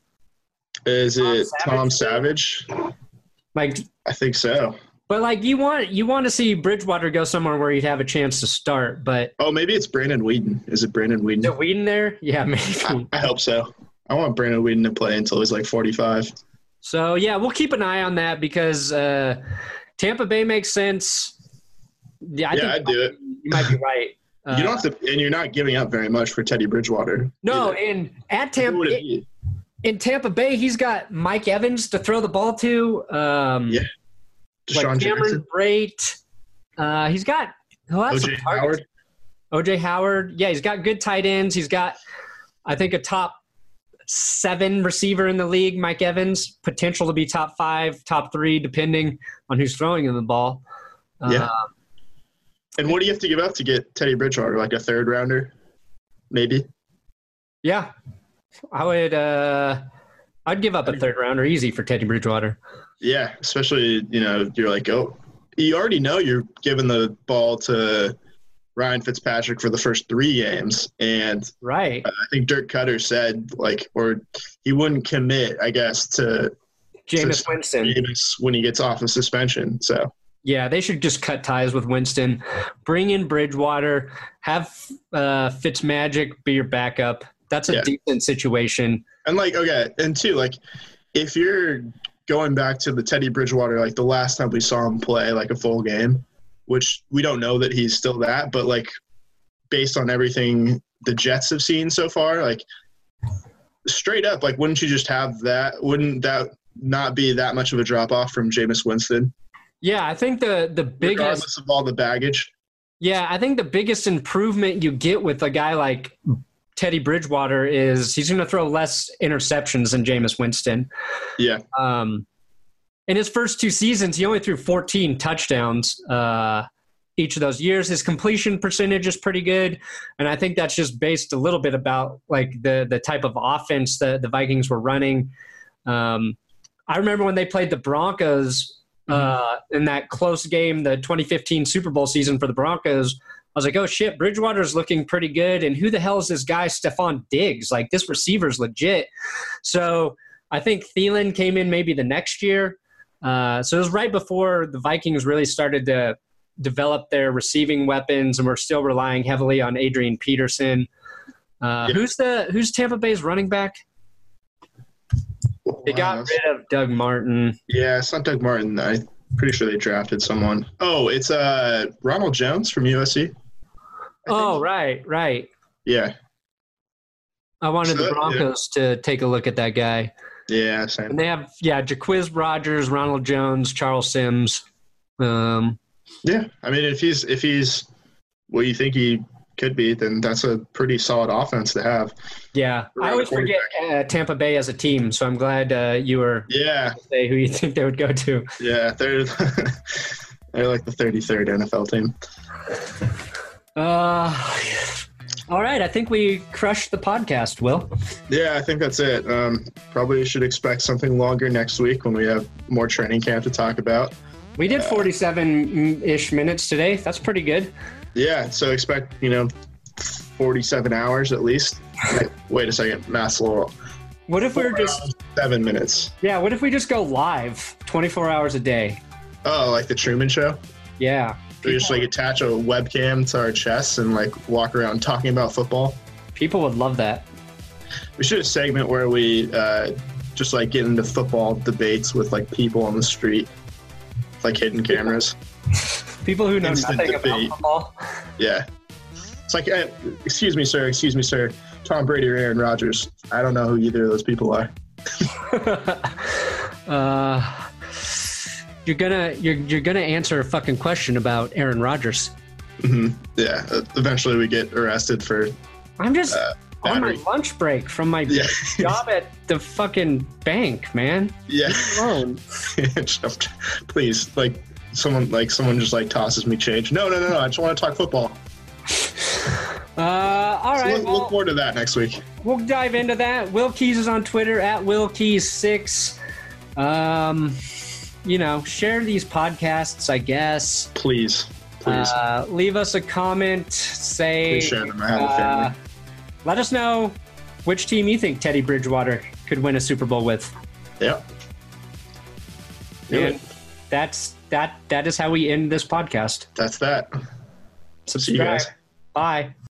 [SPEAKER 2] Is Tom it Savage? Tom Savage?
[SPEAKER 1] Like,
[SPEAKER 2] I think so.
[SPEAKER 1] But like, you want you want to see Bridgewater go somewhere where he'd have a chance to start. But
[SPEAKER 2] oh, maybe it's Brandon Weeden. Is it Brandon Weeden?
[SPEAKER 1] Is it Weeden there? Yeah, maybe.
[SPEAKER 2] I, I hope so. I want Brandon Weeden to play until he's like forty-five.
[SPEAKER 1] So yeah, we'll keep an eye on that because uh, Tampa Bay makes sense. Yeah, I
[SPEAKER 2] yeah,
[SPEAKER 1] think
[SPEAKER 2] I'd do it.
[SPEAKER 1] You might be right.
[SPEAKER 2] Uh, you don't have to, and you're not giving up very much for Teddy Bridgewater.
[SPEAKER 1] No,
[SPEAKER 2] either.
[SPEAKER 1] and at Tampa, in, in Tampa Bay, he's got Mike Evans to throw the ball to. Um,
[SPEAKER 2] yeah,
[SPEAKER 1] like Cameron Brate. Uh, he's got oh,
[SPEAKER 2] O J Howard.
[SPEAKER 1] O J Howard. Yeah, he's got good tight ends. He's got, I think, a top seven receiver in the league. Mike Evans, potential to be top five, top three, depending on who's throwing him the ball.
[SPEAKER 2] Yeah.
[SPEAKER 1] Uh,
[SPEAKER 2] And what do you have to give up to get Teddy Bridgewater? Like a third rounder, maybe?
[SPEAKER 1] Yeah, I would. Uh, I'd give up a third rounder easy for Teddy Bridgewater.
[SPEAKER 2] Yeah, especially you know you're like, oh, you already know you're giving the ball to Ryan Fitzpatrick for the first three games, and
[SPEAKER 1] right.
[SPEAKER 2] Uh, I think Dirk Cutter said like, or he wouldn't commit, I guess, to
[SPEAKER 1] Jameis Winston
[SPEAKER 2] Jameis when he gets off of suspension. So.
[SPEAKER 1] Yeah, they should just cut ties with Winston, bring in Bridgewater, have uh, Fitzmagic be your backup. That's a yeah. decent situation.
[SPEAKER 2] And, like, okay, and two, like, if you're going back to the Teddy Bridgewater, like, the last time we saw him play, like, a full game, which we don't know that he's still that, but, like, based on everything the Jets have seen so far, like, straight up, like, wouldn't you just have that? Wouldn't that not be that much of a drop-off from Jameis Winston?
[SPEAKER 1] Yeah, I think the the biggest
[SPEAKER 2] regardless of all the baggage.
[SPEAKER 1] Yeah, I think the biggest improvement you get with a guy like Teddy Bridgewater is he's going to throw less interceptions than Jameis Winston.
[SPEAKER 2] Yeah.
[SPEAKER 1] Um, in his first two seasons, he only threw fourteen touchdowns uh, each of those years. His completion percentage is pretty good, and I think that's just based a little bit about like the the type of offense that the Vikings were running. Um, I remember when they played the Broncos. Uh, in that close game, the twenty fifteen Super Bowl season for the Broncos, I was like, oh, shit, Bridgewater's looking pretty good. And who the hell is this guy, Stephon Diggs? Like, this receiver's legit. So I think Thielen came in maybe the next year. Uh, so it was right before the Vikings really started to develop their receiving weapons, and we're still relying heavily on Adrian Peterson. Uh, yeah. Who's the who's Tampa Bay's running back? They got wow. rid of Doug Martin.
[SPEAKER 2] Yeah, it's not Doug Martin. I'm pretty sure they drafted someone. Oh, it's uh, Ronald Jones from U S C.
[SPEAKER 1] Oh, right, right.
[SPEAKER 2] Yeah.
[SPEAKER 1] I wanted so, the Broncos yeah. to take a look at that guy.
[SPEAKER 2] Yeah, same.
[SPEAKER 1] And they have, yeah, Jaquiz Rogers, Ronald Jones, Charles Sims. Um,
[SPEAKER 2] yeah, I mean, if he's if he's what you think he could be, then that's a pretty solid offense to have.
[SPEAKER 1] Yeah, I always forget uh, Tampa Bay as a team, so I'm glad uh, you were
[SPEAKER 2] yeah
[SPEAKER 1] say who you think they would go to.
[SPEAKER 2] Yeah, they're they're like the thirty-third N F L team.
[SPEAKER 1] Uh, all right, I think we crushed the podcast, Will.
[SPEAKER 2] Yeah, I think that's it. Um, probably should expect something longer next week when we have more training camp to talk about.
[SPEAKER 1] We did forty-seven-ish minutes today. That's pretty good.
[SPEAKER 2] Yeah, so expect, you know, forty-seven hours at least. Wait, wait a second, math's a little.
[SPEAKER 1] What if we we're just
[SPEAKER 2] seven minutes?
[SPEAKER 1] Yeah, what if we just go live twenty-four hours a day?
[SPEAKER 2] Oh, like the Truman Show?
[SPEAKER 1] Yeah.
[SPEAKER 2] We just like attach a webcam to our chests and like walk around talking about football.
[SPEAKER 1] People would love that.
[SPEAKER 2] We should have a segment where we uh, just like get into football debates with like people on the street, like hidden cameras.
[SPEAKER 1] People who know
[SPEAKER 2] Instant
[SPEAKER 1] nothing
[SPEAKER 2] debate.
[SPEAKER 1] about football.
[SPEAKER 2] Yeah. It's like, uh, excuse me, sir, excuse me, sir. Tom Brady or Aaron Rodgers. I don't know who either of those people are.
[SPEAKER 1] Uh, you're gonna you're you're gonna answer a fucking question about Aaron Rodgers.
[SPEAKER 2] Mm-hmm. Yeah. Eventually, we get arrested for.
[SPEAKER 1] I'm just
[SPEAKER 2] uh,
[SPEAKER 1] on my
[SPEAKER 2] battery.
[SPEAKER 1] lunch break from my
[SPEAKER 2] Yeah.
[SPEAKER 1] job at the fucking bank, man.
[SPEAKER 2] Yeah.
[SPEAKER 1] Leave me alone.
[SPEAKER 2] Please, like someone, like someone just like tosses me change. No, no, no, no. I just want to talk football.
[SPEAKER 1] Uh, all
[SPEAKER 2] So
[SPEAKER 1] right.
[SPEAKER 2] look,
[SPEAKER 1] well,
[SPEAKER 2] look forward to that next week.
[SPEAKER 1] We'll dive into that. Will Keys is on Twitter at Will Keys six. Um, you know, share these podcasts, I guess.
[SPEAKER 2] Please, please,
[SPEAKER 1] Uh, leave us a comment. Say,
[SPEAKER 2] please share them. I have a
[SPEAKER 1] uh,
[SPEAKER 2] family.
[SPEAKER 1] let us know which team you think Teddy Bridgewater could win a Super Bowl with.
[SPEAKER 2] Yep. Do
[SPEAKER 1] And
[SPEAKER 2] it.
[SPEAKER 1] that's that. That is how we end this podcast.
[SPEAKER 2] That's that.
[SPEAKER 1] Subscribe.
[SPEAKER 2] See you guys.
[SPEAKER 1] Bye.